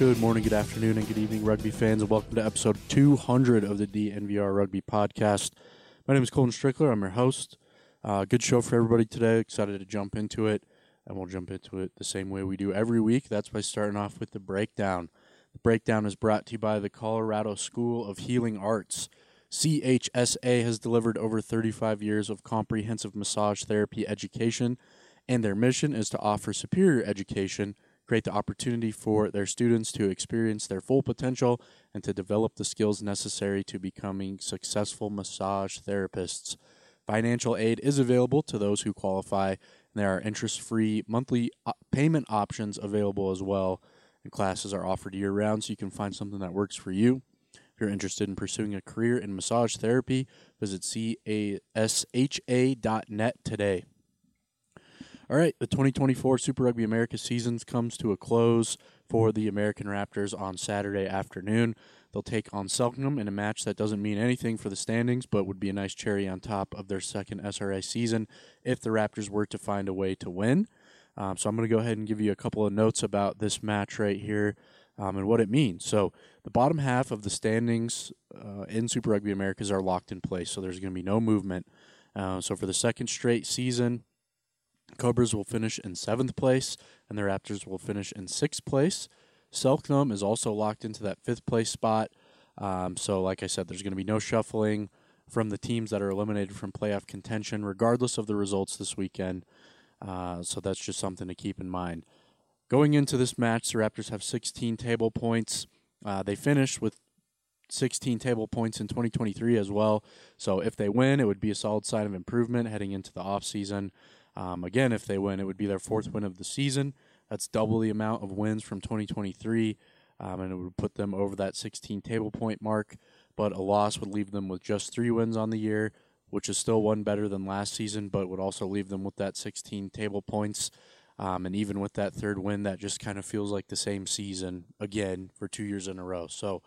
Good morning, good afternoon, and good evening, rugby fans, and welcome to episode 200 of the DNVR Rugby Podcast. My name is Colton Strickler. I'm your host. Good show for everybody today. Excited to jump into it, and we'll jump into it the same way we do every week. That's by starting off with the breakdown. The breakdown is brought to you by the Colorado School of Healing Arts. CHSA has delivered over 35 years of comprehensive massage therapy education, and their mission is to offer superior education, create the opportunity for their students to experience their full potential, and to develop the skills necessary to becoming successful massage therapists. Financial aid is available to those who qualify, and there are interest-free monthly payment options available as well, and classes are offered year-round, so you can find something that works for you. If you're interested in pursuing a career in massage therapy, visit casha.net today. All right, the 2024 Super Rugby America season comes to a close for the American Raptors on Saturday afternoon. They'll take on Selknam in a match that doesn't mean anything for the standings, but would be a nice cherry on top of their second SRA season if the Raptors were to find a way to win. So I'm going to go ahead and give you a couple of notes about this match right here and what it means. So the bottom half of the standings in Super Rugby Americas are locked in place, so there's going to be no movement. So for the second straight season, Cobras will finish in 7th place, and the Raptors will finish in 6th place. Selknam is also locked into that 5th place spot. So like I said, there's going to be no shuffling from the teams that are eliminated from playoff contention, regardless of the results this weekend. So that's just something to keep in mind. Going into this match, the Raptors have 16 table points. They finished with 16 table points in 2023 as well. So if they win, it would be a solid sign of improvement heading into the offseason. Again, if they win, it would be their 4th win of the season. That's double the amount of wins from 2023, and it would put them over that 16 table point mark. But a loss would leave them with just 3 wins on the year, which is still one better than last season, but would also leave them with that 16 table points. And even with that 3rd win, that just kind of feels like the same season again for 2 years in a row. So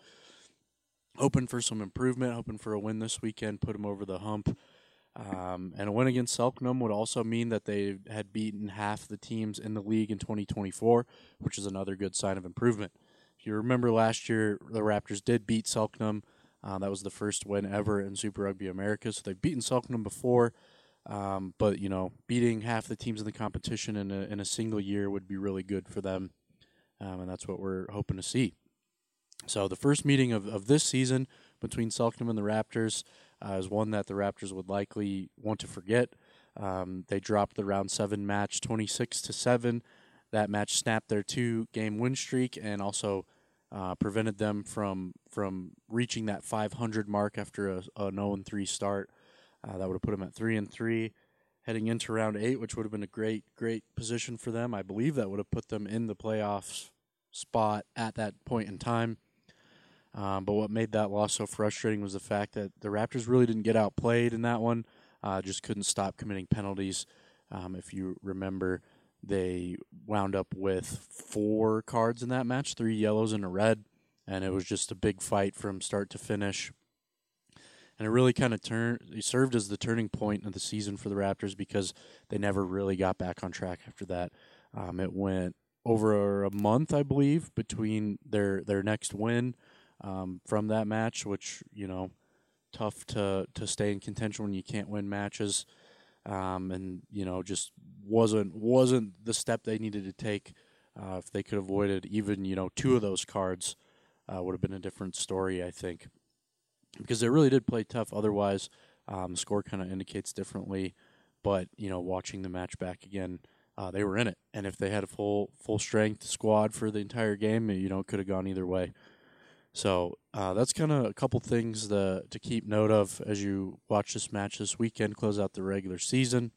hoping for some improvement, hoping for a win this weekend, put them over the hump. And a win against Selknam would also mean that they had beaten half the teams in the league in 2024, which is another good sign of improvement. If you remember last year, the Raptors did beat Selknam. That was the first win ever in Super Rugby America. So they've beaten Selknam before, but beating half the teams in the competition in a single year would be really good for them, and that's what we're hoping to see. So the first meeting of this season between Selknam and the Raptors is one that the Raptors would likely want to forget. They dropped the round 7 match 26-7. That match snapped their 2-game win streak and also prevented them from reaching that 500 mark after a 0-3 start. That would have put them at 3-3 heading into round 8, which would have been a great position for them. I believe that would have put them in the playoffs spot at that point in time. But what made that loss so frustrating was the fact that the Raptors really didn't get outplayed in that one, just couldn't stop committing penalties. If you remember, they wound up with 4 cards in that match, 3 yellows and a red, and it was just a big fight from start to finish. And it really kind of served as the turning point of the season for the Raptors because they never really got back on track after that. It went over a month, I believe, between their next win from that match, which, tough to stay in contention when you can't win matches, and, just wasn't the step they needed to take. If they could have avoided even, 2 of those cards, would have been a different story, I think, because they really did play tough. Otherwise, the score kind of indicates differently, but, watching the match back again, they were in it, and if they had a full strength squad for the entire game, it could have gone either way. So that's kind of a couple things to keep note of as you watch this match this weekend, close out the regular season.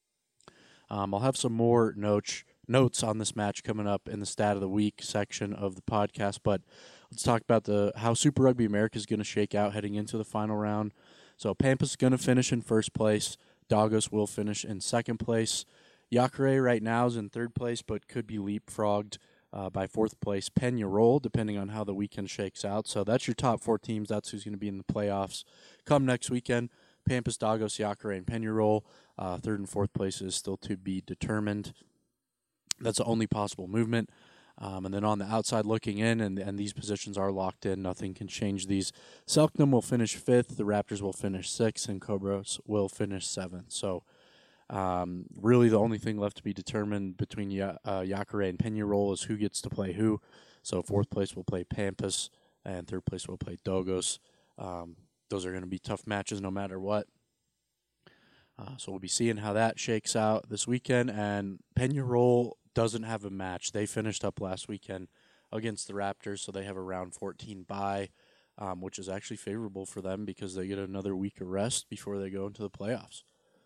I'll have some more notes on this match coming up in the Stat of the Week section of the podcast, but let's talk about how Super Rugby America is going to shake out heading into the final round. So Pampas is going to finish in 1st place. Dagos will finish in 2nd place. Jacare right now is in 3rd place, but could be leapfrogged by 4th place Peñarol, depending on how the weekend shakes out. So that's your top 4 teams. That's who's going to be in the playoffs come next weekend. Pampas, Dagos, Jacare, and Peñarol. 3rd and 4th place is still to be determined. That's the only possible movement. And then on the outside looking in, and these positions are locked in, nothing can change these. Selknam will finish 5th, the Raptors will finish 6th, and Cobras will finish 7th. So really the only thing left to be determined between Jacare and Peñarol is who gets to play who. So 4th place will play Pampas, and 3rd place will play Dogos. Those are going to be tough matches no matter what. So we'll be seeing how that shakes out this weekend. And Peñarol doesn't have a match. They finished up last weekend against the Raptors, so they have a round 14 bye, which is actually favorable for them because they get another week of rest before they go into the playoffs.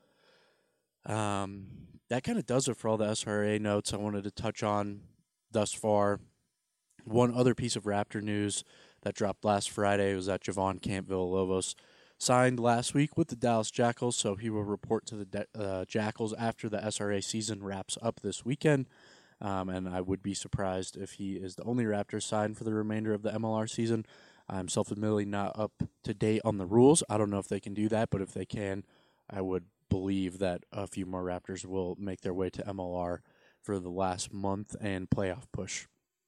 That kind of does it for all the SRA notes I wanted to touch on thus far. One other piece of Raptor news that dropped last Friday was that Javon Camp-Villalobos signed last week with the Dallas Jackals, so he will report to the Jackals after the SRA season wraps up this weekend. And I would be surprised if he is the only Raptor signed for the remainder of the MLR season. I'm self-admittedly not up to date on the rules. I don't know if they can do that, but if they can, I would believe that a few more Raptors will make their way to MLR for the last month and playoff push.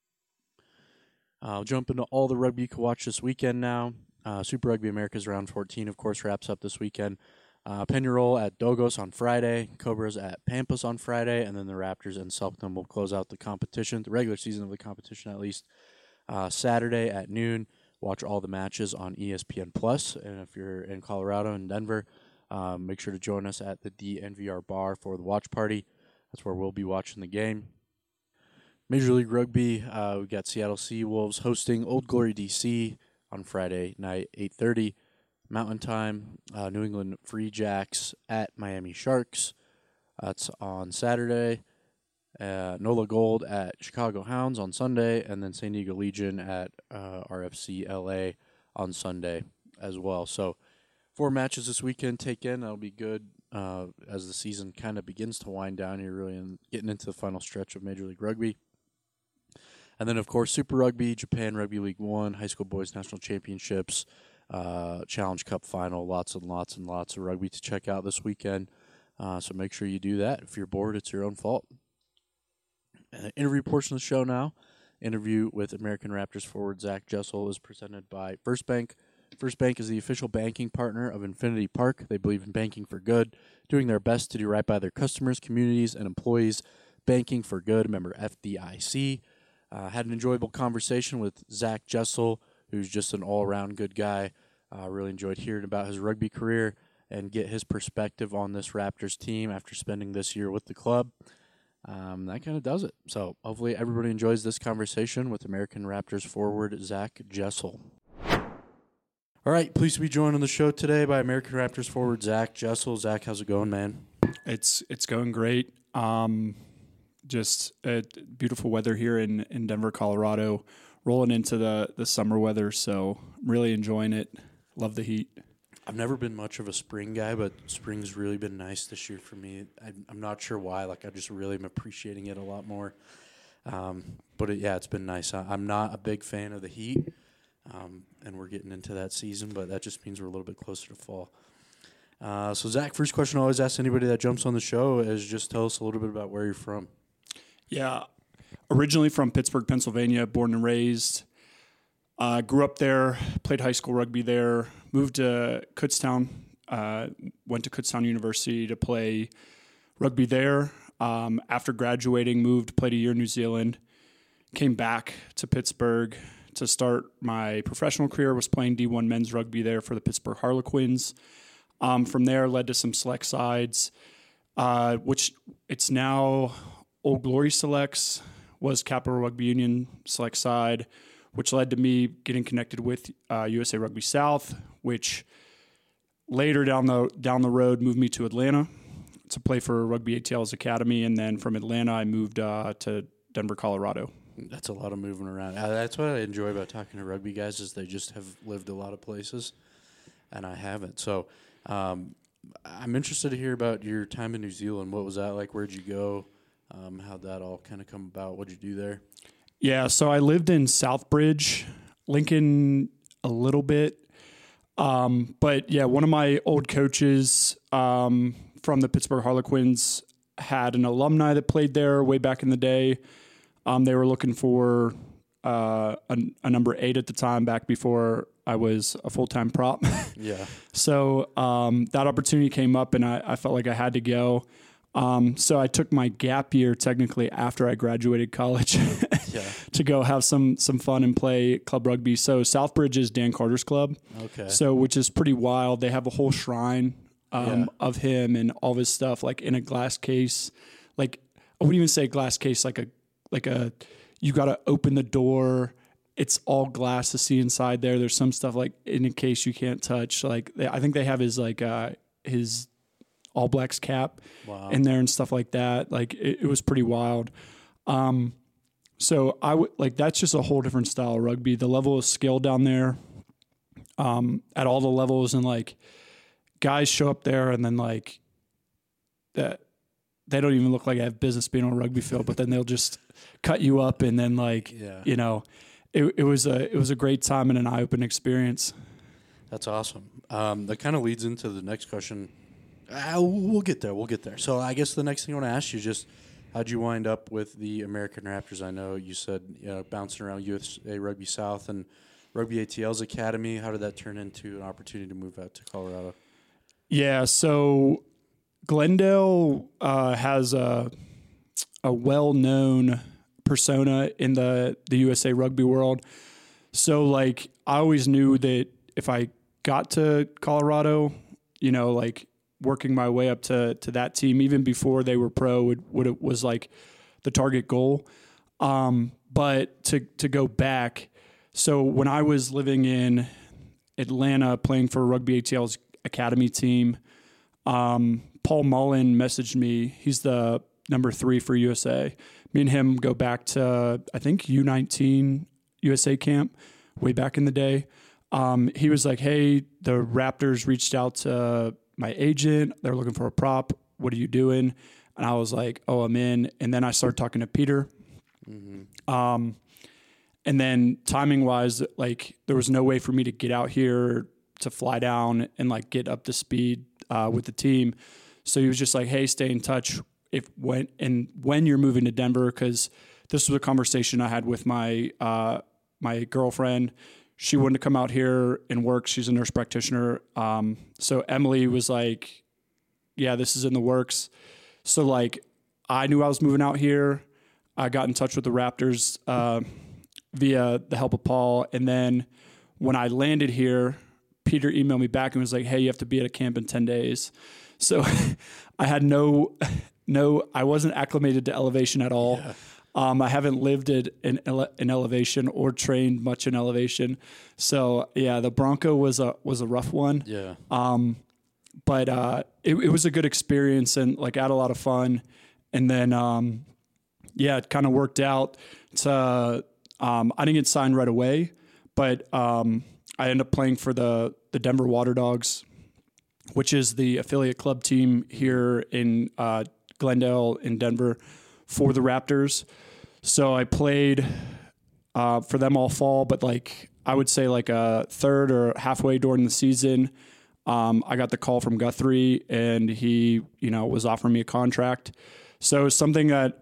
I'll jump into all the rugby you can watch this weekend now. Super Rugby America's round 14, of course, wraps up this weekend. Peñarol at Dogos on Friday, Cobras at Pampas on Friday, and then the Raptors and Selknam will close out the competition, the regular season of the competition at least, Saturday at noon. Watch all the matches on ESPN Plus, and if you're in Colorado and Denver, make sure to join us at the DNVR bar for the watch party. That's where we'll be watching the game. Major League Rugby, we got Seattle Seawolves hosting Old Glory DC on Friday night, 8:30 Mountain Time. New England Free Jacks at Miami Sharks. That's on Saturday. NOLA Gold at Chicago Hounds on Sunday, and then San Diego Legion at RFC LA on Sunday as well. So 4 matches this weekend take in. That'll be good as the season kind of begins to wind down here, really, and getting into the final stretch of Major League Rugby. And then, of course, Super Rugby, Japan Rugby League 1, High School Boys National Championships, Challenge Cup Final, lots and lots and lots of rugby to check out this weekend. So make sure you do that. If you're bored, it's your own fault. Interview portion of the show now. Interview with American Raptors forward Zach Jessel is presented by First Bank. First Bank is the official banking partner of Infinity Park. They believe in banking for good, doing their best to do right by their customers, communities, and employees. Banking for good, member FDIC. Had an enjoyable conversation with Zach Jessel, who's just an all-around good guy. Really enjoyed hearing about his rugby career and get his perspective on this Raptors team after spending this year with the club. That kind of does it. So hopefully everybody enjoys this conversation with American Raptors forward Zach Jessel. All right, pleased to be joined on the show today by American Raptors forward Zach Jessel. Zach, how's it going, man? It's going great. Just beautiful weather here in Denver, Colorado, rolling into the summer weather, so I'm really enjoying it. Love the heat. I've never been much of a spring guy, but spring's really been nice this year for me. I'm not sure why. I just really am appreciating it a lot more. But it's been nice. I'm not a big fan of the heat, and we're getting into that season, but that just means we're a little bit closer to fall. So, Zach, first question I always ask anybody that jumps on the show is just tell us a little bit about where you're from. Yeah, originally from Pittsburgh, Pennsylvania, born and raised. Grew up there, played high school rugby there, moved to Kutztown, went to Kutztown University to play rugby there. After graduating, played a year in New Zealand, came back to Pittsburgh to start my professional career, was playing D1 men's rugby there for the Pittsburgh Harlequins. From there, led to some select sides, which it's now Old Glory Selects, was Capital Rugby Union select side, which led to me getting connected with USA Rugby South, which later down the road moved me to Atlanta to play for Rugby ATL's Academy, and then from Atlanta I moved to Denver, Colorado. That's a lot of moving around. That's what I enjoy about talking to rugby guys is they just have lived a lot of places, and I haven't. So I'm interested to hear about your time in New Zealand. What was that like? Where'd you go? How'd that all kind of come about? What'd you do there? Yeah, so I lived in Southbridge, Lincoln a little bit. But yeah, one of my old coaches from the Pittsburgh Harlequins had an alumni that played there way back in the day. They were looking for a number 8 at the time, back before I was a full-time prop. Yeah. So that opportunity came up, and I felt like I had to go. So I took my gap year technically after I graduated college to go have some fun and play club rugby. So Southbridge is Dan Carter's club. Okay. So, which is pretty wild. They have a whole shrine of him and all of his stuff, like in a glass case. Like, I wouldn't even say glass case, like a you got to open the door. It's all glass to see inside there. There's some stuff like in a case you can't touch. Like, I think they have his his All Blacks cap in there and stuff like that. Like, it was pretty wild. So I would like, that's just a whole different style of rugby. The level of skill down there, at all the levels, and like guys show up there and then like that they don't even look like they have business being on a rugby field, but then they'll just cut you up and then like, you know, it was a great time and an eye-opening experience. That's awesome. That kind of leads into the next question. We'll get there. So I guess the next thing I want to ask you is just, how'd you wind up with the American Raptors? I know you said bouncing around USA Rugby South and Rugby ATL's academy. How did that turn into an opportunity to move out to Colorado? Yeah, so Glendale has a well-known persona in the USA Rugby world. So like, I always knew that if I got to Colorado, you know, like working my way up to that team, even before they were pro, it was like the target goal. But to go back, so when I was living in Atlanta playing for Rugby ATL's academy team, Paul Mullen messaged me. He's the number 3 for USA. Me and him go back to, I think, U19 USA camp way back in the day. He was like, hey, the Raptors reached out to my agent. They're looking for a prop. What are you doing? And I was like, oh, I'm in. And then I started talking to Peter. Mm-hmm. And then timing wise, like there was no way for me to get out here to fly down and like get up to speed with the team. So he was just like, hey, stay in touch when you're moving to Denver, because this was a conversation I had with my my girlfriend. She wanted to come out here and work. She's a nurse practitioner. So Emily was like, yeah, this is in the works. So like, I knew I was moving out here. I got in touch with the Raptors via the help of Paul. And then when I landed here, Peter emailed me back and was like, hey, you have to be at a camp in 10 days. So I had I wasn't acclimated to elevation at all. Yeah. I haven't lived in elevation or trained much in elevation. So yeah, the Bronco was a rough one. Yeah. But it was a good experience and like I had a lot of fun. And then, it kind of worked out to, I didn't get signed right away, but I ended up playing for the Denver Water Dogs, which is the affiliate club team here in Glendale in Denver for the Raptors. So I played for them all fall, but like I would say like a third or halfway during the season, I got the call from Guthrie and he, was offering me a contract. So it's something that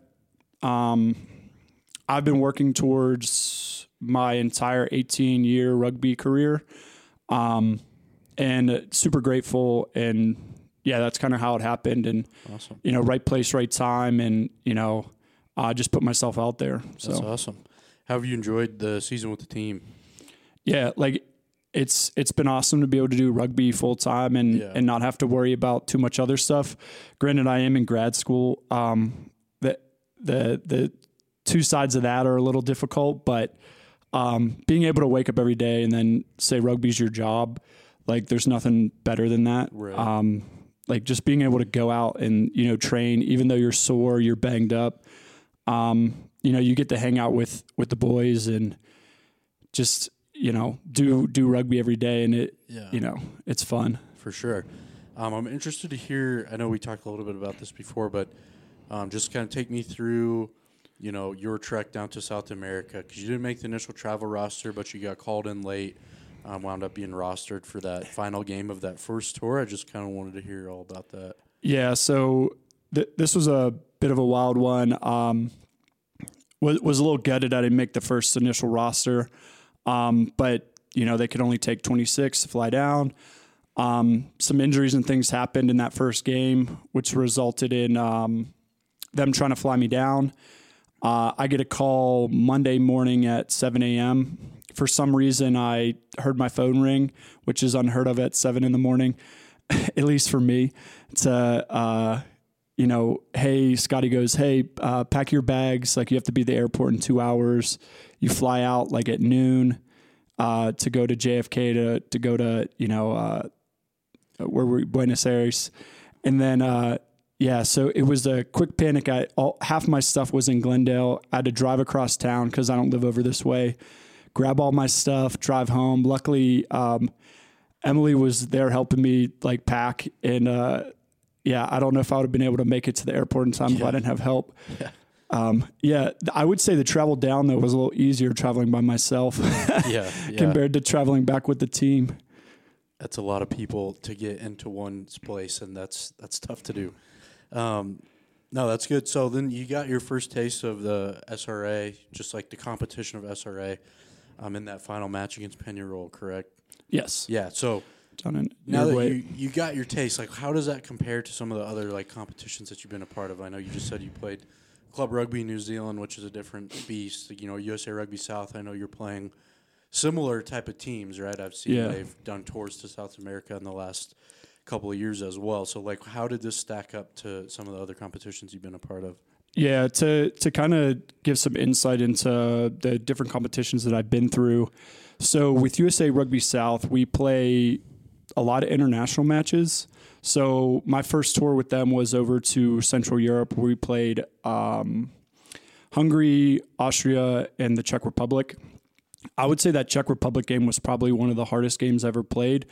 I've been working towards my entire 18-year rugby career, and super grateful. And yeah, that's kind of how it happened. And awesome. Right place, right time, and I just put myself out there. So that's awesome. How have you enjoyed the season with the team? Yeah, like it's been awesome to be able to do rugby full time and not have to worry about too much other stuff. Granted, I am in grad school. The two sides of that are a little difficult, but being able to wake up every day and then say rugby's your job, like there's nothing better than that. Right. Like just being able to go out and, train, even though you're sore, you're banged up, you get to hang out with the boys and just, do rugby every day. And it's fun. For sure. I'm interested to hear, I know we talked a little bit about this before, but just kind of take me through, your trek down to South America, because you didn't make the initial travel roster, but you got called in late, wound up being rostered for that final game of that first tour. I just kind of wanted to hear all about that. Yeah, so this was a bit of a wild one. was a little gutted I didn't make the first initial roster. But they could only take 26 to fly down. Some injuries and things happened in that first game, which resulted in them trying to fly me down. I get a call Monday morning at 7 a.m. For some reason, I heard my phone ring, which is unheard of at 7 in the morning, at least for me. It's hey, Scotty goes, hey, pack your bags. Like, you have to be at the airport in 2 hours. You fly out like at noon to go to JFK to go to, where we're Buenos Aires. And then, so it was a quick panic. Half my stuff was in Glendale. I had to drive across town because I don't live over this way, grab all my stuff, drive home. Luckily, Emily was there helping me like pack. And, I don't know if I would have been able to make it to the airport in time if I didn't have help. I would say the travel down though was a little easier traveling by myself compared to traveling back with the team. That's a lot of people to get into one place, and that's tough to do. No, that's good. So then you got your first taste of the SRA, just like the competition of SRA, in that final match against Peñarol, correct? Yes. Yeah. So now that you got your taste, like how does that compare to some of the other like competitions that you've been a part of? I know you just said you played Club Rugby New Zealand, which is a different beast. USA Rugby South. I know you're playing similar type of teams, right? I've seen they've done tours to South America in the last couple of years as well. So, like, how did this stack up to some of the other competitions you've been a part of? Yeah, to kind of give some insight into the different competitions that I've been through. So, with USA Rugby South, we play a lot of international matches. So, my first tour with them was over to Central Europe, where we played Hungary, Austria, and the Czech Republic. I would say that Czech Republic game was probably one of the hardest games I ever played.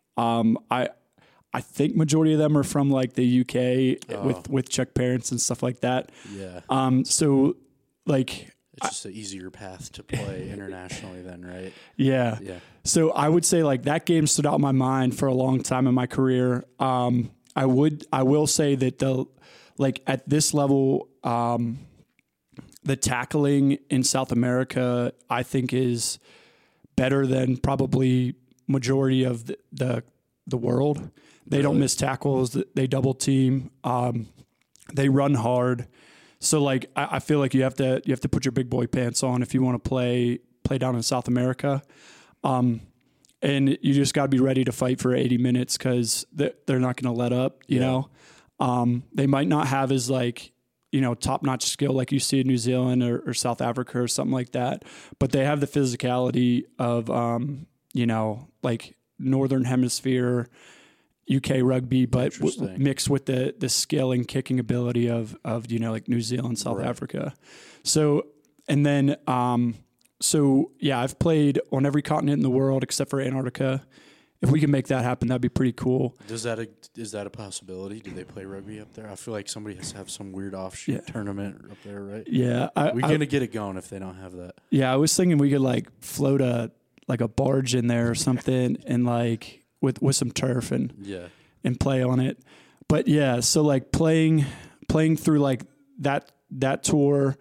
I think majority of them are from like the UK with Czech parents and stuff like that. Yeah. So like it's just an easier path to play internationally then, right? Yeah. Yeah. So I would say like that game stood out in my mind for a long time in my career. I will say that at this level, the tackling in South America, I think, is better than probably majority of the world. They don't miss tackles. They double team. They run hard. So like I feel like you have to put your big boy pants on if you want to play down in South America. And you just got to be ready to fight for 80 minutes because they're not going to let up. You know, they might not have as like, top-notch skill like you see in New Zealand or South Africa or something like that. But they have the physicality of, like Northern Hemisphere UK rugby, but mixed with the skill and kicking ability of like New Zealand, South Africa. So, and then, I've played on every continent in the world except for Antarctica. If we can make that happen, that'd be pretty cool. Is that a possibility? Do they play rugby up there? I feel like somebody has to have some weird offshoot tournament up there, right? Yeah. We're going to get it going if they don't have that. Yeah, I was thinking we could like float a barge in there or something and like with some turf and play on it. But yeah, so like playing through like that tour,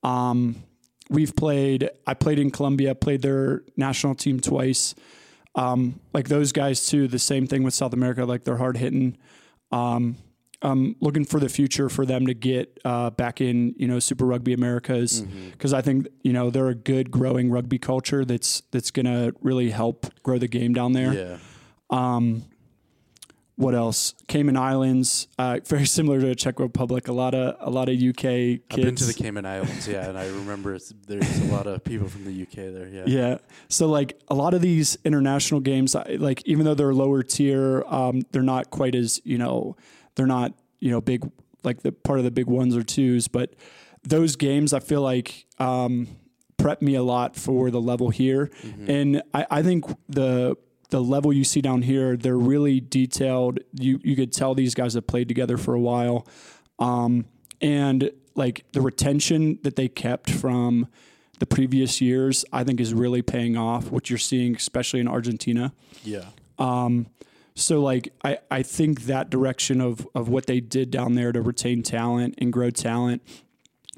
I played in Colombia, played their national team twice. Like those guys too, the same thing with South America, like they're hard hitting. I'm looking for the future for them to get back in, Super Rugby Americas, because I think they're a good growing rugby culture that's gonna really help grow the game down there. Yeah. What else? Cayman Islands, very similar to the Czech Republic. A lot of UK kids. I've been to the Cayman Islands, and I remember there's a lot of people from the UK there. Yeah. Yeah. So like a lot of these international games, like even though they're lower tier, they're not quite as they're not big like the part of the big ones or twos, but those games I feel like prep me a lot for the level here, and I think the level you see down here, they're really detailed. You could tell these guys have played together for a while. And like the retention that they kept from the previous years, I think is really paying off, what you're seeing, especially in Argentina. Yeah. So like, I think that direction of what they did down there to retain talent and grow talent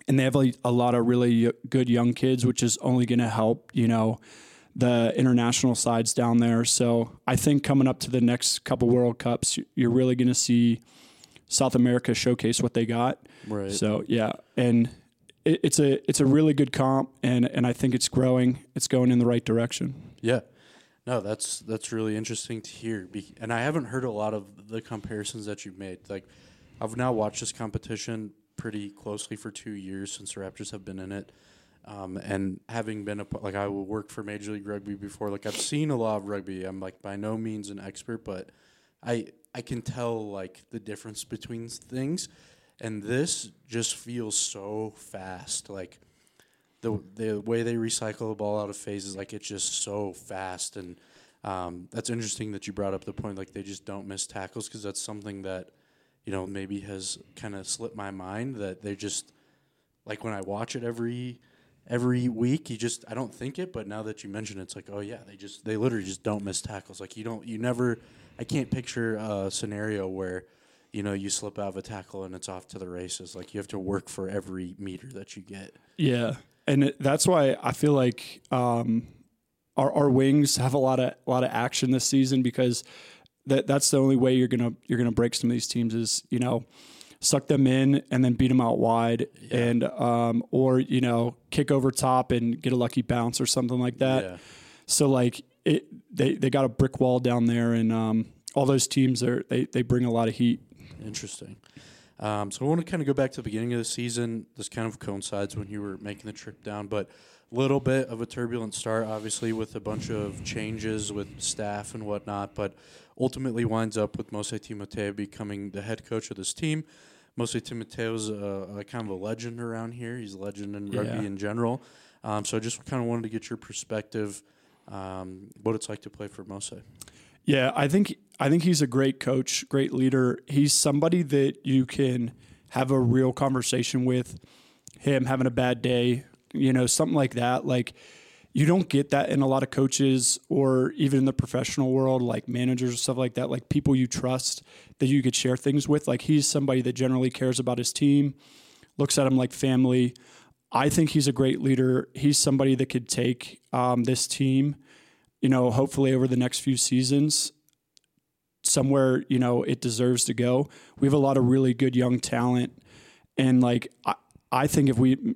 and they have a lot of really good young kids, which is only going to help, the international sides down there. So I think coming up to the next couple World Cups, you're really going to see South America showcase what they got. Right. So yeah, and it's a really good comp, and I think it's growing. It's going in the right direction. Yeah. No, that's really interesting to hear. And I haven't heard a lot of the comparisons that you've made. Like, I've now watched this competition pretty closely for 2 years since the Raptors have been in it. And having been I worked for Major League Rugby before. Like, I've seen a lot of rugby. I'm like by no means an expert, but I can tell like the difference between things. And this just feels so fast. Like the way they recycle the ball out of phases, like it's just so fast. And that's interesting that you brought up the point like they just don't miss tackles, because that's something that maybe has kind of slipped my mind, that they just like when I watch it every week, I don't think it, but now that you mention it, it's like, oh yeah, they literally just don't miss tackles. Like I can't picture a scenario where, you slip out of a tackle and it's off to the races. Like you have to work for every meter that you get. Yeah. And that's why I feel like our wings have a lot of action this season, because that's the only way you're gonna break some of these teams is, suck them in and then beat them out wide, and or kick over top and get a lucky bounce or something like that. Yeah. So like they got a brick wall down there, and all those teams they bring a lot of heat. Interesting. So I want to kind of go back to the beginning of the season. This kind of coincides when you were making the trip down, but a little bit of a turbulent start, obviously, with a bunch of changes with staff and whatnot, but ultimately winds up with Mose Timoteo becoming the head coach of this team. Mose Timoteo's a kind of a legend around here. He's a legend in rugby in general. So I just kind of wanted to get your perspective, what it's like to play for Mose. Yeah, I think he's a great coach, great leader. He's somebody that you can have a real conversation with. Him having a bad day, something like that. Like, you don't get that in a lot of coaches, or even in the professional world, like managers or stuff like that, like people you trust that you could share things with. Like, he's somebody that generally cares about his team, looks at them like family. I think he's a great leader. He's somebody that could take this team, hopefully over the next few seasons somewhere, it deserves to go. We have a lot of really good young talent. And like, I think if we,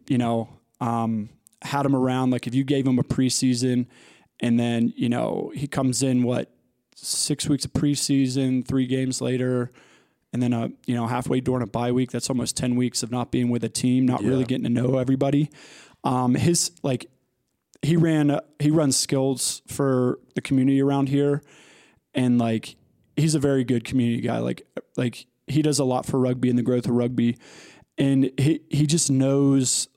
had him around, like if you gave him a preseason and then, he comes in, 6 weeks of preseason, 3 games later, and then halfway during a bye week, that's almost 10 weeks of not being with a team, not really getting to know everybody. He runs skills for the community around here, and like he's a very good community guy. Like he does a lot for rugby and the growth of rugby, and he just knows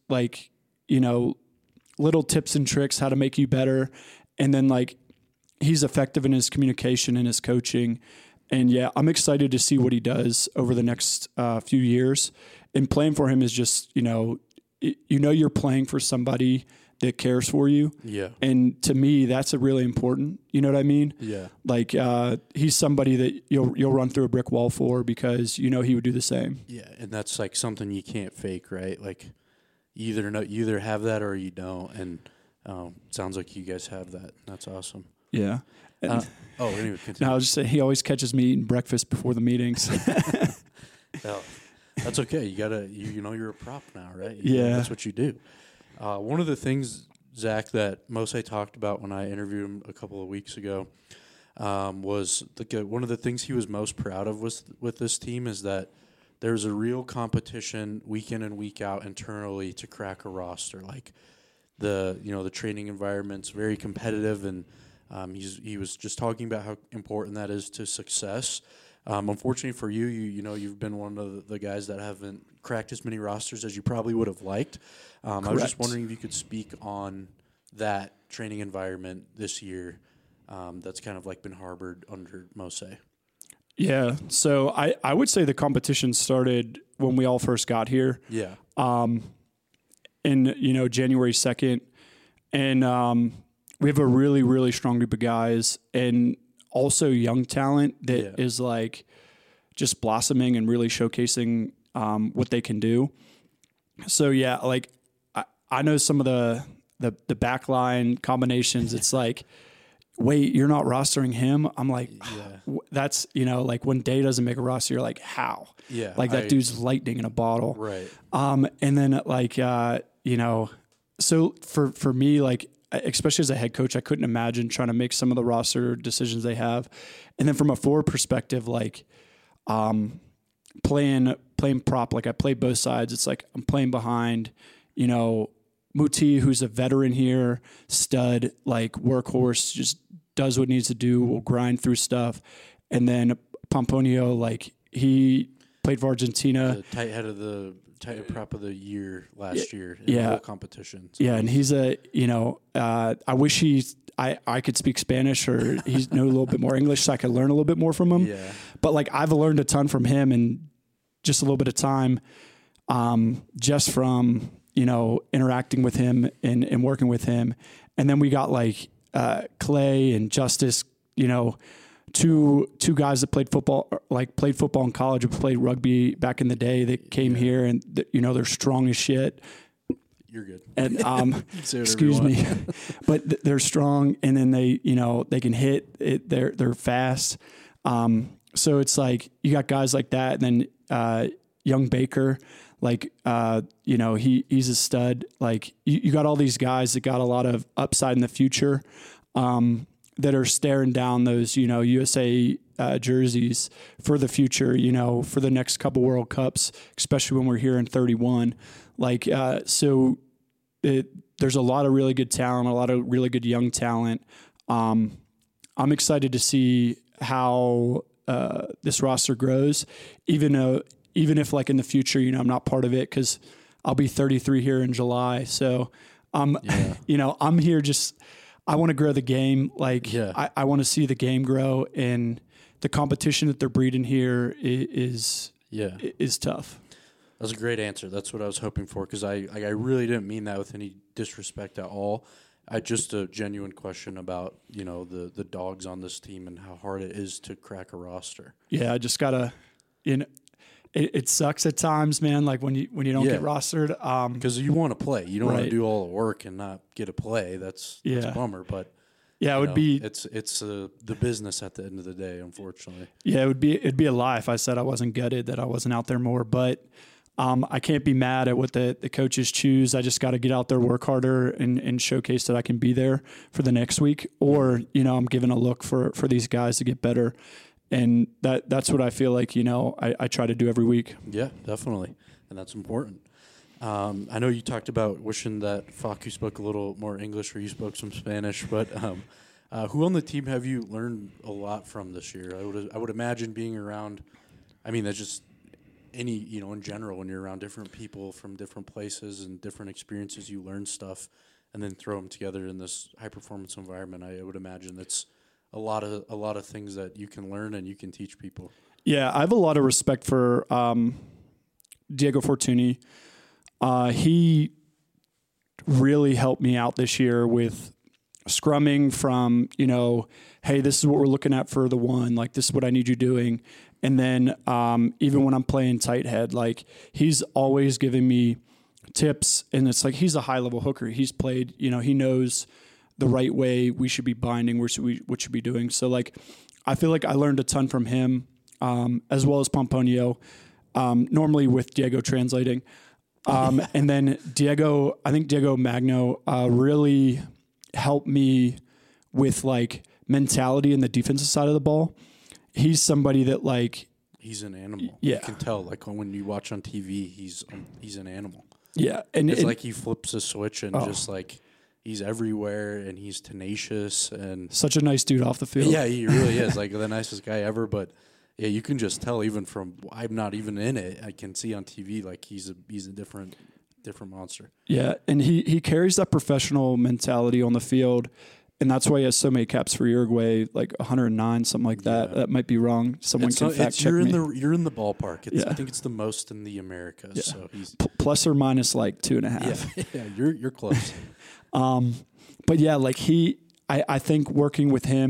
little tips and tricks how to make you better, and then like he's effective in his communication and his coaching. And yeah, I'm excited to see what he does over the next few years. And playing for him is just you're playing for somebody that cares for you. Yeah. And to me, that's really important. You know what I mean? Yeah. Like he's somebody that you'll run through a brick wall for, because he would do the same. Yeah, and that's like something you can't fake, right? Like you either have that or you don't. And sounds like you guys have that. That's awesome. Yeah. Anyway, continue. No, I was just saying, he always catches me eating breakfast before the meetings. Oh, that's okay. You gotta, you're a prop now, right? Yeah. That's what you do. One of the things, Zach, that Mose talked about when I interviewed him a couple of weeks ago was one of the things he was most proud of with this team is that there's a real competition week in and week out internally to crack a roster. Like the training environment's very competitive, and he was just talking about how important that is to success. Unfortunately for you, you've been one of the guys that haven't cracked as many rosters as you probably would have liked. I was just wondering if you could speak on that training environment this year that's kind of like been harbored under Mose. Yeah, so I would say the competition started when we all first got here. Yeah. In January 2nd, and we have a really, really strong group of guys, and also young talent that is like just blossoming and really showcasing what they can do. So yeah, like I know some of the backline combinations. It's like, wait, you're not rostering him? I'm like, that's, like when Day doesn't make a roster, you're like, how? Yeah. Like that dude's lightning in a bottle. Right. And then like, so for me, like, especially as a head coach, I couldn't imagine trying to make some of the roster decisions they have. And then from a forward perspective, like, playing prop, like I play both sides. It's like I'm playing behind, Muti, who's a veteran here, stud, like workhorse, just does what needs to do, will grind through stuff. And then Pomponio, like he played for Argentina. The tight head prop of the year last year in the whole competition. So and he's I wish I could speak Spanish or he know a little bit more English so I could learn a little bit more from him. Yeah. But like I've learned a ton from him in just a little bit of time, just from, interacting with him and working with him. And then we got like Clay and Justice, two guys that played football in college, but played rugby back in the day that came here and, they're strong as shit. You're good. And excuse me, but they're strong, and then they can hit it. They're fast. So it's like you got guys like that, and then young Baker, like he's a stud. Like you got all these guys that got a lot of upside in the future, that are staring down those USA jerseys for the future. For the next couple World Cups, especially when we're here in 31. Like, so there's a lot of really good talent, a lot of really good young talent. I'm excited to see how this roster grows, even if like in the future, I'm not part of it because I'll be 33 here in July. So, I'm here I want to grow the game. Like, I want to see the game grow, and the competition that they're breeding here is tough. That's a great answer. That's what I was hoping for, because I really didn't mean that with any disrespect at all. Just a genuine question about the dogs on this team and how hard it is to crack a roster. Yeah, I just gotta, it sucks at times, man. Like when you don't get rostered, because you want to play, you don't want Right. to do all the work and not get a play. That's a bummer, but. Yeah, it would be. It's the business at the end of the day, unfortunately. Yeah, it'd be a lie if I said I wasn't gutted that I wasn't out there more. But I can't be mad at what the coaches choose. I just got to get out there, work harder, and showcase that I can be there for the next week. Or I'm giving a look for these guys to get better, and that's what I feel like. I try to do every week. Yeah, definitely, and that's important. I know you talked about wishing that Facu spoke a little more English or you spoke some Spanish, but who on the team have you learned a lot from this year? I would imagine being around, that's just any, in general, when you're around different people from different places and different experiences, you learn stuff and then throw them together in this high-performance environment. I would imagine that's a lot of things that you can learn and you can teach people. Yeah, I have a lot of respect for Diego Fortuny. He really helped me out this year with scrumming from, hey, this is what we're looking at for the one, like this is what I need you doing. And then even when I'm playing tight head, like he's always giving me tips, and it's like he's a high-level hooker. He's played, he knows the right way we should be binding, what should be doing. So, like, I feel like I learned a ton from him, as well as Pomponio, normally with Diego translating. And then I think Diego Magno really helped me with like mentality in the defensive side of the ball. He's somebody that like he's an animal. Yeah, you can tell like when you watch on TV, he's an animal. Yeah, and it's like he flips a switch and just like he's everywhere and he's tenacious and such a nice dude off the field. Yeah, he really is like the nicest guy ever. But yeah, you can just tell even from I'm not even in it. I can see on TV like he's a different monster. Yeah, and he carries that professional mentality on the field, and that's why he has so many caps for Uruguay, like 109, something like that. Yeah. That might be wrong. Someone can fact check me. You're in the ballpark. I think it's the most in the Americas. Yeah. So he's plus or minus like 2.5. Yeah, you're close. But yeah, like I think working with him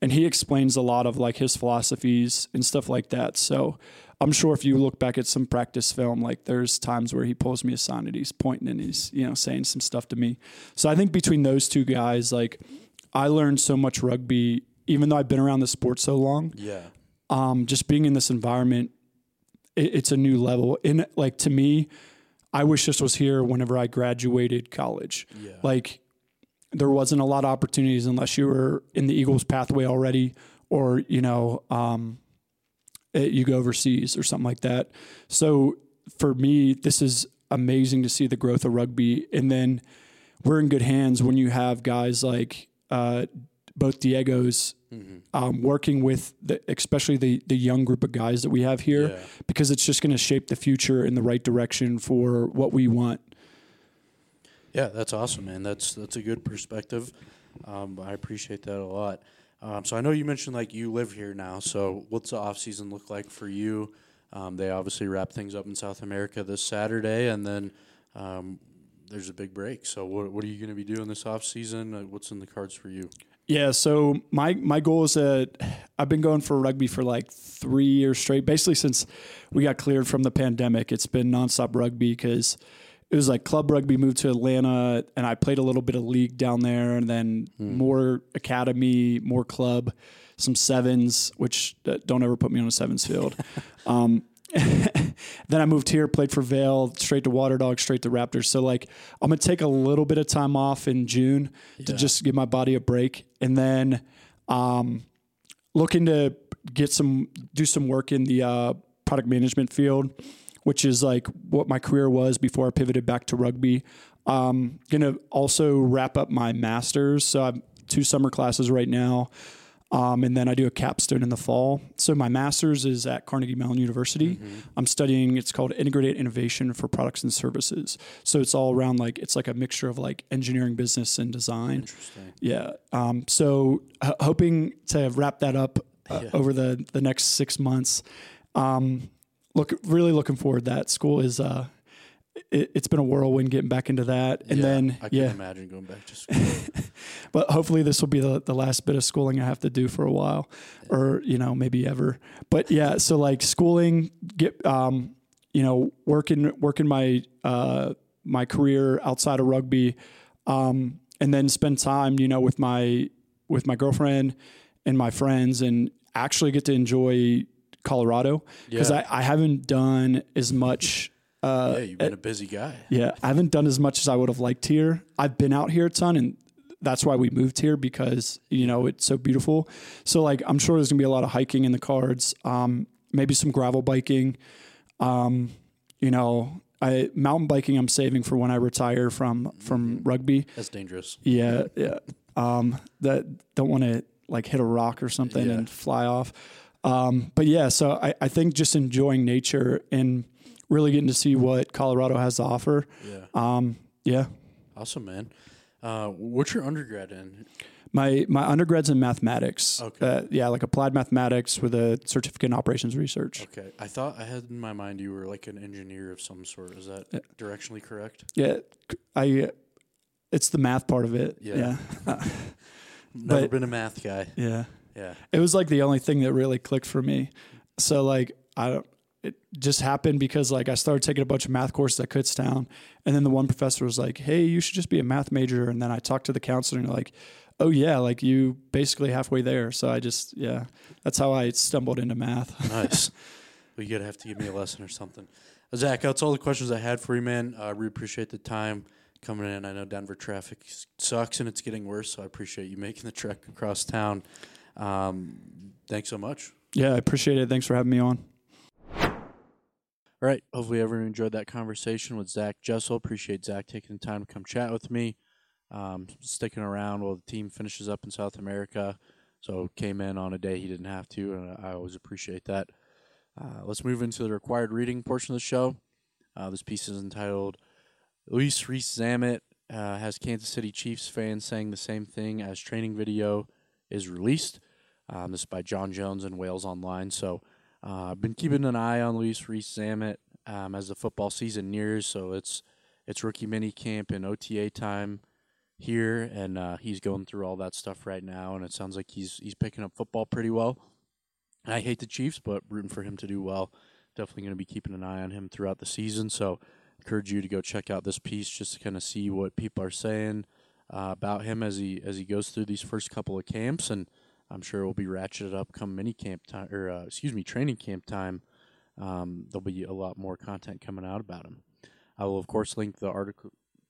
and he explains a lot of like his philosophies and stuff like that. So I'm sure if you look back at some practice film, like there's times where he pulls me aside and he's pointing and he's, saying some stuff to me. So I think between those two guys, like I learned so much rugby, even though I've been around the sport so long. Yeah. Just being in this environment, it's a new level. And like, to me, I wish this was here whenever I graduated college. Yeah. Like there wasn't a lot of opportunities unless you were in the Eagles pathway already, or, you go overseas or something like that. So for me, this is amazing to see the growth of rugby. And then we're in good hands when you have guys like both Diego's working with especially the young group of guys that we have here, because it's just going to shape the future in the right direction for what we want. Yeah, that's awesome, man. That's a good perspective. I appreciate that a lot. So I know you mentioned like you live here now. So what's the off season look like for you? They obviously wrap things up in South America this Saturday, and then there's a big break. So what are you going to be doing this off season? What's in the cards for you? Yeah, so my goal is I've been going for rugby for like 3 years straight. Basically, since we got cleared from the pandemic, it's been nonstop rugby, because it was like club rugby moved to Atlanta, and I played a little bit of league down there, and then more academy, more club, some sevens, which don't ever put me on a sevens field. Then I moved here, played for Vail, straight to Water Dogs, straight to Raptors. So like I'm going to take a little bit of time off in June to just give my body a break. And then looking to do some work in the product management field, which is like what my career was before I pivoted back to rugby. Going to also wrap up my master's. So I have 2 summer classes right now. And then I do a capstone in the fall. So my master's is at Carnegie Mellon University. I'm studying, it's called Integrated Innovation for Products and Services. So it's all around like, it's like a mixture of like engineering, business, and design. Interesting. Yeah. So hoping to wrap that up over the next 6 months. Really looking forward to that. School is, it's been a whirlwind getting back into that. And then, I can imagine going back to school. But hopefully this will be the last bit of schooling I have to do for a while, or, maybe ever. But yeah, so like schooling, working my, my career outside of rugby, and then spend time, with my girlfriend and my friends, and actually get to enjoy Colorado, because I haven't done as much. You've been a busy guy. Yeah, I haven't done as much as I would have liked here. I've been out here a ton, and that's why we moved here, because, it's so beautiful. So like, I'm sure there's gonna be a lot of hiking in the cards, maybe some gravel biking, mountain biking I'm saving for when I retire from rugby. That's dangerous. Yeah. That don't want to like hit a rock or something and fly off. But yeah, so I think just enjoying nature and really getting to see what Colorado has to offer. Yeah. Awesome, man. What's your undergrad in? My undergrad's in mathematics. Okay. Like applied mathematics with a certificate in operations research. Okay. I thought I had in my mind you were like an engineer of some sort. Is that directionally correct? Yeah. It's the math part of it. Yeah. Never been a math guy. Yeah. Yeah. It was like the only thing that really clicked for me. So like, it just happened because like I started taking a bunch of math courses at Kutztown, and then the one professor was like, "Hey, you should just be a math major." And then I talked to the counselor, and they're like, "Oh yeah, like you basically halfway there." So I just that's how I stumbled into math. Nice. Well, you're gonna have to give me a lesson or something. Zach, that's all the questions I had for you, man. I really appreciate the time coming in. I know Denver traffic sucks and it's getting worse, so I appreciate you making the trek across town. Thanks so much. Yeah, I appreciate it. Thanks for having me on. All right. Hopefully everyone enjoyed that conversation with Zach Jessel. Appreciate Zach taking the time to come chat with me, sticking around while the team finishes up in South America. So came in on a day he didn't have to, and I always appreciate that. Let's move into the required reading portion of the show. This piece is entitled, Luis Rees-Zammit has Kansas City Chiefs fans saying the same thing as training video is released. This is by John Jones and Wales Online. So I've been keeping an eye on Luis Rees-Zammit as the football season nears. So it's rookie mini camp and OTA time here, and he's going through all that stuff right now, and it sounds like he's picking up football pretty well. I hate the Chiefs, but rooting for him to do well. Definitely going to be keeping an eye on him throughout the season. So, encourage you to go check out this piece just to kind of see what people are saying about him as he goes through these first couple of camps, and I'm sure it will be ratcheted up come mini camp time, or training camp time. There'll be a lot more content coming out about him. I will of course link the article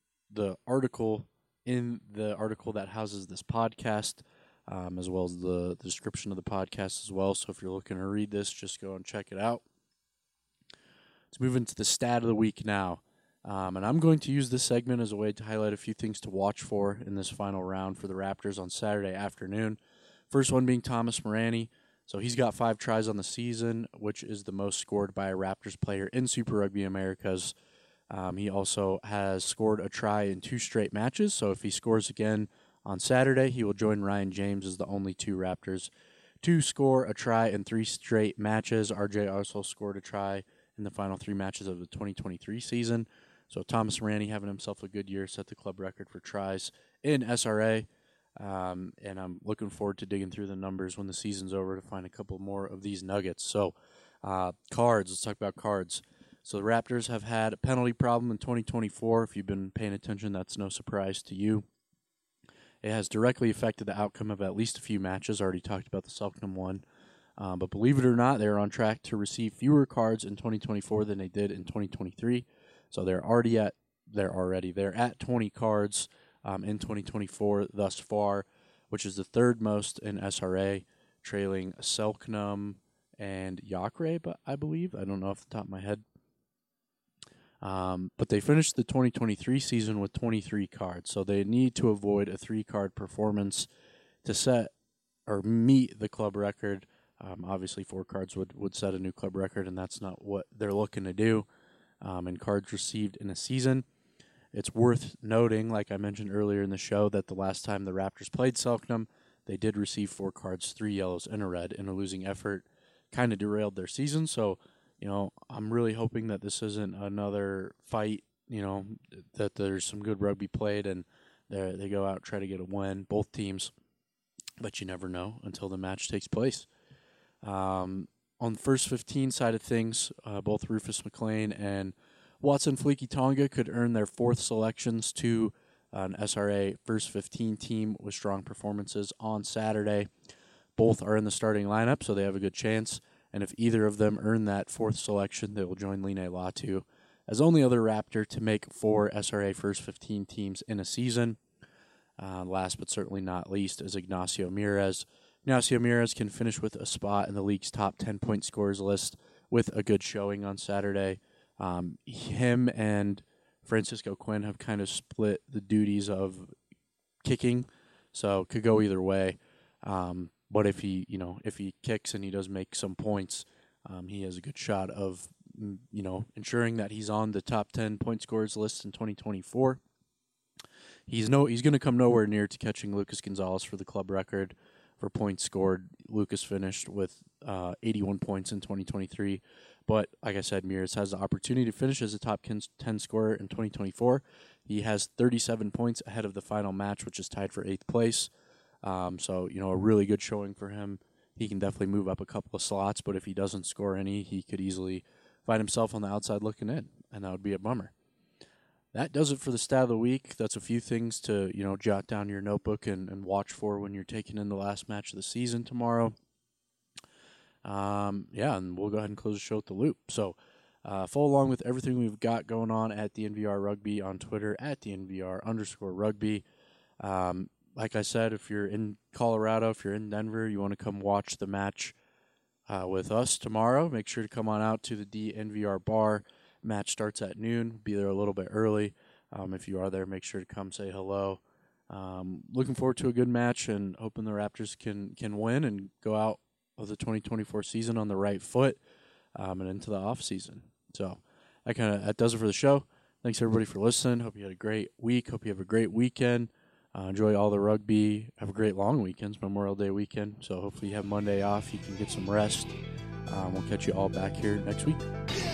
in the article that houses this podcast, as well as the description of the podcast as well. So if you're looking to read this, just go and check it out. Let's move into the stat of the week now. And I'm going to use this segment as a way to highlight a few things to watch for in this final round for the Raptors on Saturday afternoon. First one being Thomas Morani. So he's got 5 tries on the season, which is the most scored by a Raptors player in Super Rugby Americas. He also has scored a try in 2 straight matches. So if he scores again on Saturday, he will join Ryan James as the only 2 Raptors to score a try in 3 straight matches. RJ also scored a try in the final 3 matches of the 2023 season. So Thomas Morani having himself a good year, set the club record for tries in SRA. And I'm looking forward to digging through the numbers when the season's over to find a couple more of these nuggets. So cards, let's talk about cards. So the Raptors have had a penalty problem in 2024. If you've been paying attention, that's no surprise to you. It has directly affected the outcome of at least a few matches. I already talked about the Selknam one. But believe it or not, they're on track to receive fewer cards in 2024 than they did in 2023. So they're at 20 cards in 2024 thus far, which is the 3rd most in SRA, trailing Selknam and Yakre, I believe. I don't know off the top of my head. But they finished the 2023 season with 23 cards, so they need to avoid a 3-card performance to set or meet the club record. Obviously, 4 cards would set a new club record, and that's not what they're looking to do. And cards received in a season. It's worth noting, like I mentioned earlier in the show, that the last time the Raptors played Selknam, they did receive 4 cards, 3 yellows, and a red in a losing effort. Kind of derailed their season, so I'm really hoping that this isn't another fight, that there's some good rugby played and they go out and try to get a win, both teams. But you never know until the match takes place. On the first 15 side of things, both Rufus McLean and Watson Fleeky Tonga could earn their 4th selections to an SRA first 15 team with strong performances on Saturday. Both are in the starting lineup, so they have a good chance. And if either of them earn that 4th selection, they will join Line Latu as only other Raptor to make 4 SRA first 15 teams in a season. Last but certainly not least is Ignacio Mires. Ignacio Mires can finish with a spot in the league's top 10-point scorers list with a good showing on Saturday. Him and Francisco Quinn have kind of split the duties of kicking, so could go either way. But if he kicks and he does make some points, he has a good shot of, ensuring that he's on the top 10 point scorers list in 2024. He's going to come nowhere near to catching Lucas Gonzalez for the club record for points scored. Lucas finished with 81 points in 2023. But like I said, Mires has the opportunity to finish as a top 10 scorer in 2024. He has 37 points ahead of the final match, which is tied for 8th place. So, a really good showing for him. He can definitely move up a couple of slots, but if he doesn't score any, he could easily find himself on the outside looking in, and that would be a bummer. That does it for the stat of the week. That's a few things to, jot down your notebook and watch for when you're taking in the last match of the season tomorrow. And we'll go ahead and close the show with the loop. So, follow along with everything we've got going on at the NVR Rugby on Twitter, at the NVR_rugby. Like I said, if you're in Colorado, if you're in Denver, you want to come watch the match with us tomorrow, make sure to come on out to the DNVR bar. Match starts at noon. Be there a little bit early. If you are there, make sure to come say hello. Looking forward to a good match and hoping the Raptors can win and go out of the 2024 season on the right foot and into the off season. So that does it for the show. Thanks everybody for listening. Hope you had a great week. Hope you have a great weekend. Enjoy all the rugby. Have a great long weekend. It's Memorial Day weekend. So hopefully you have Monday off. You can get some rest. We'll catch you all back here next week.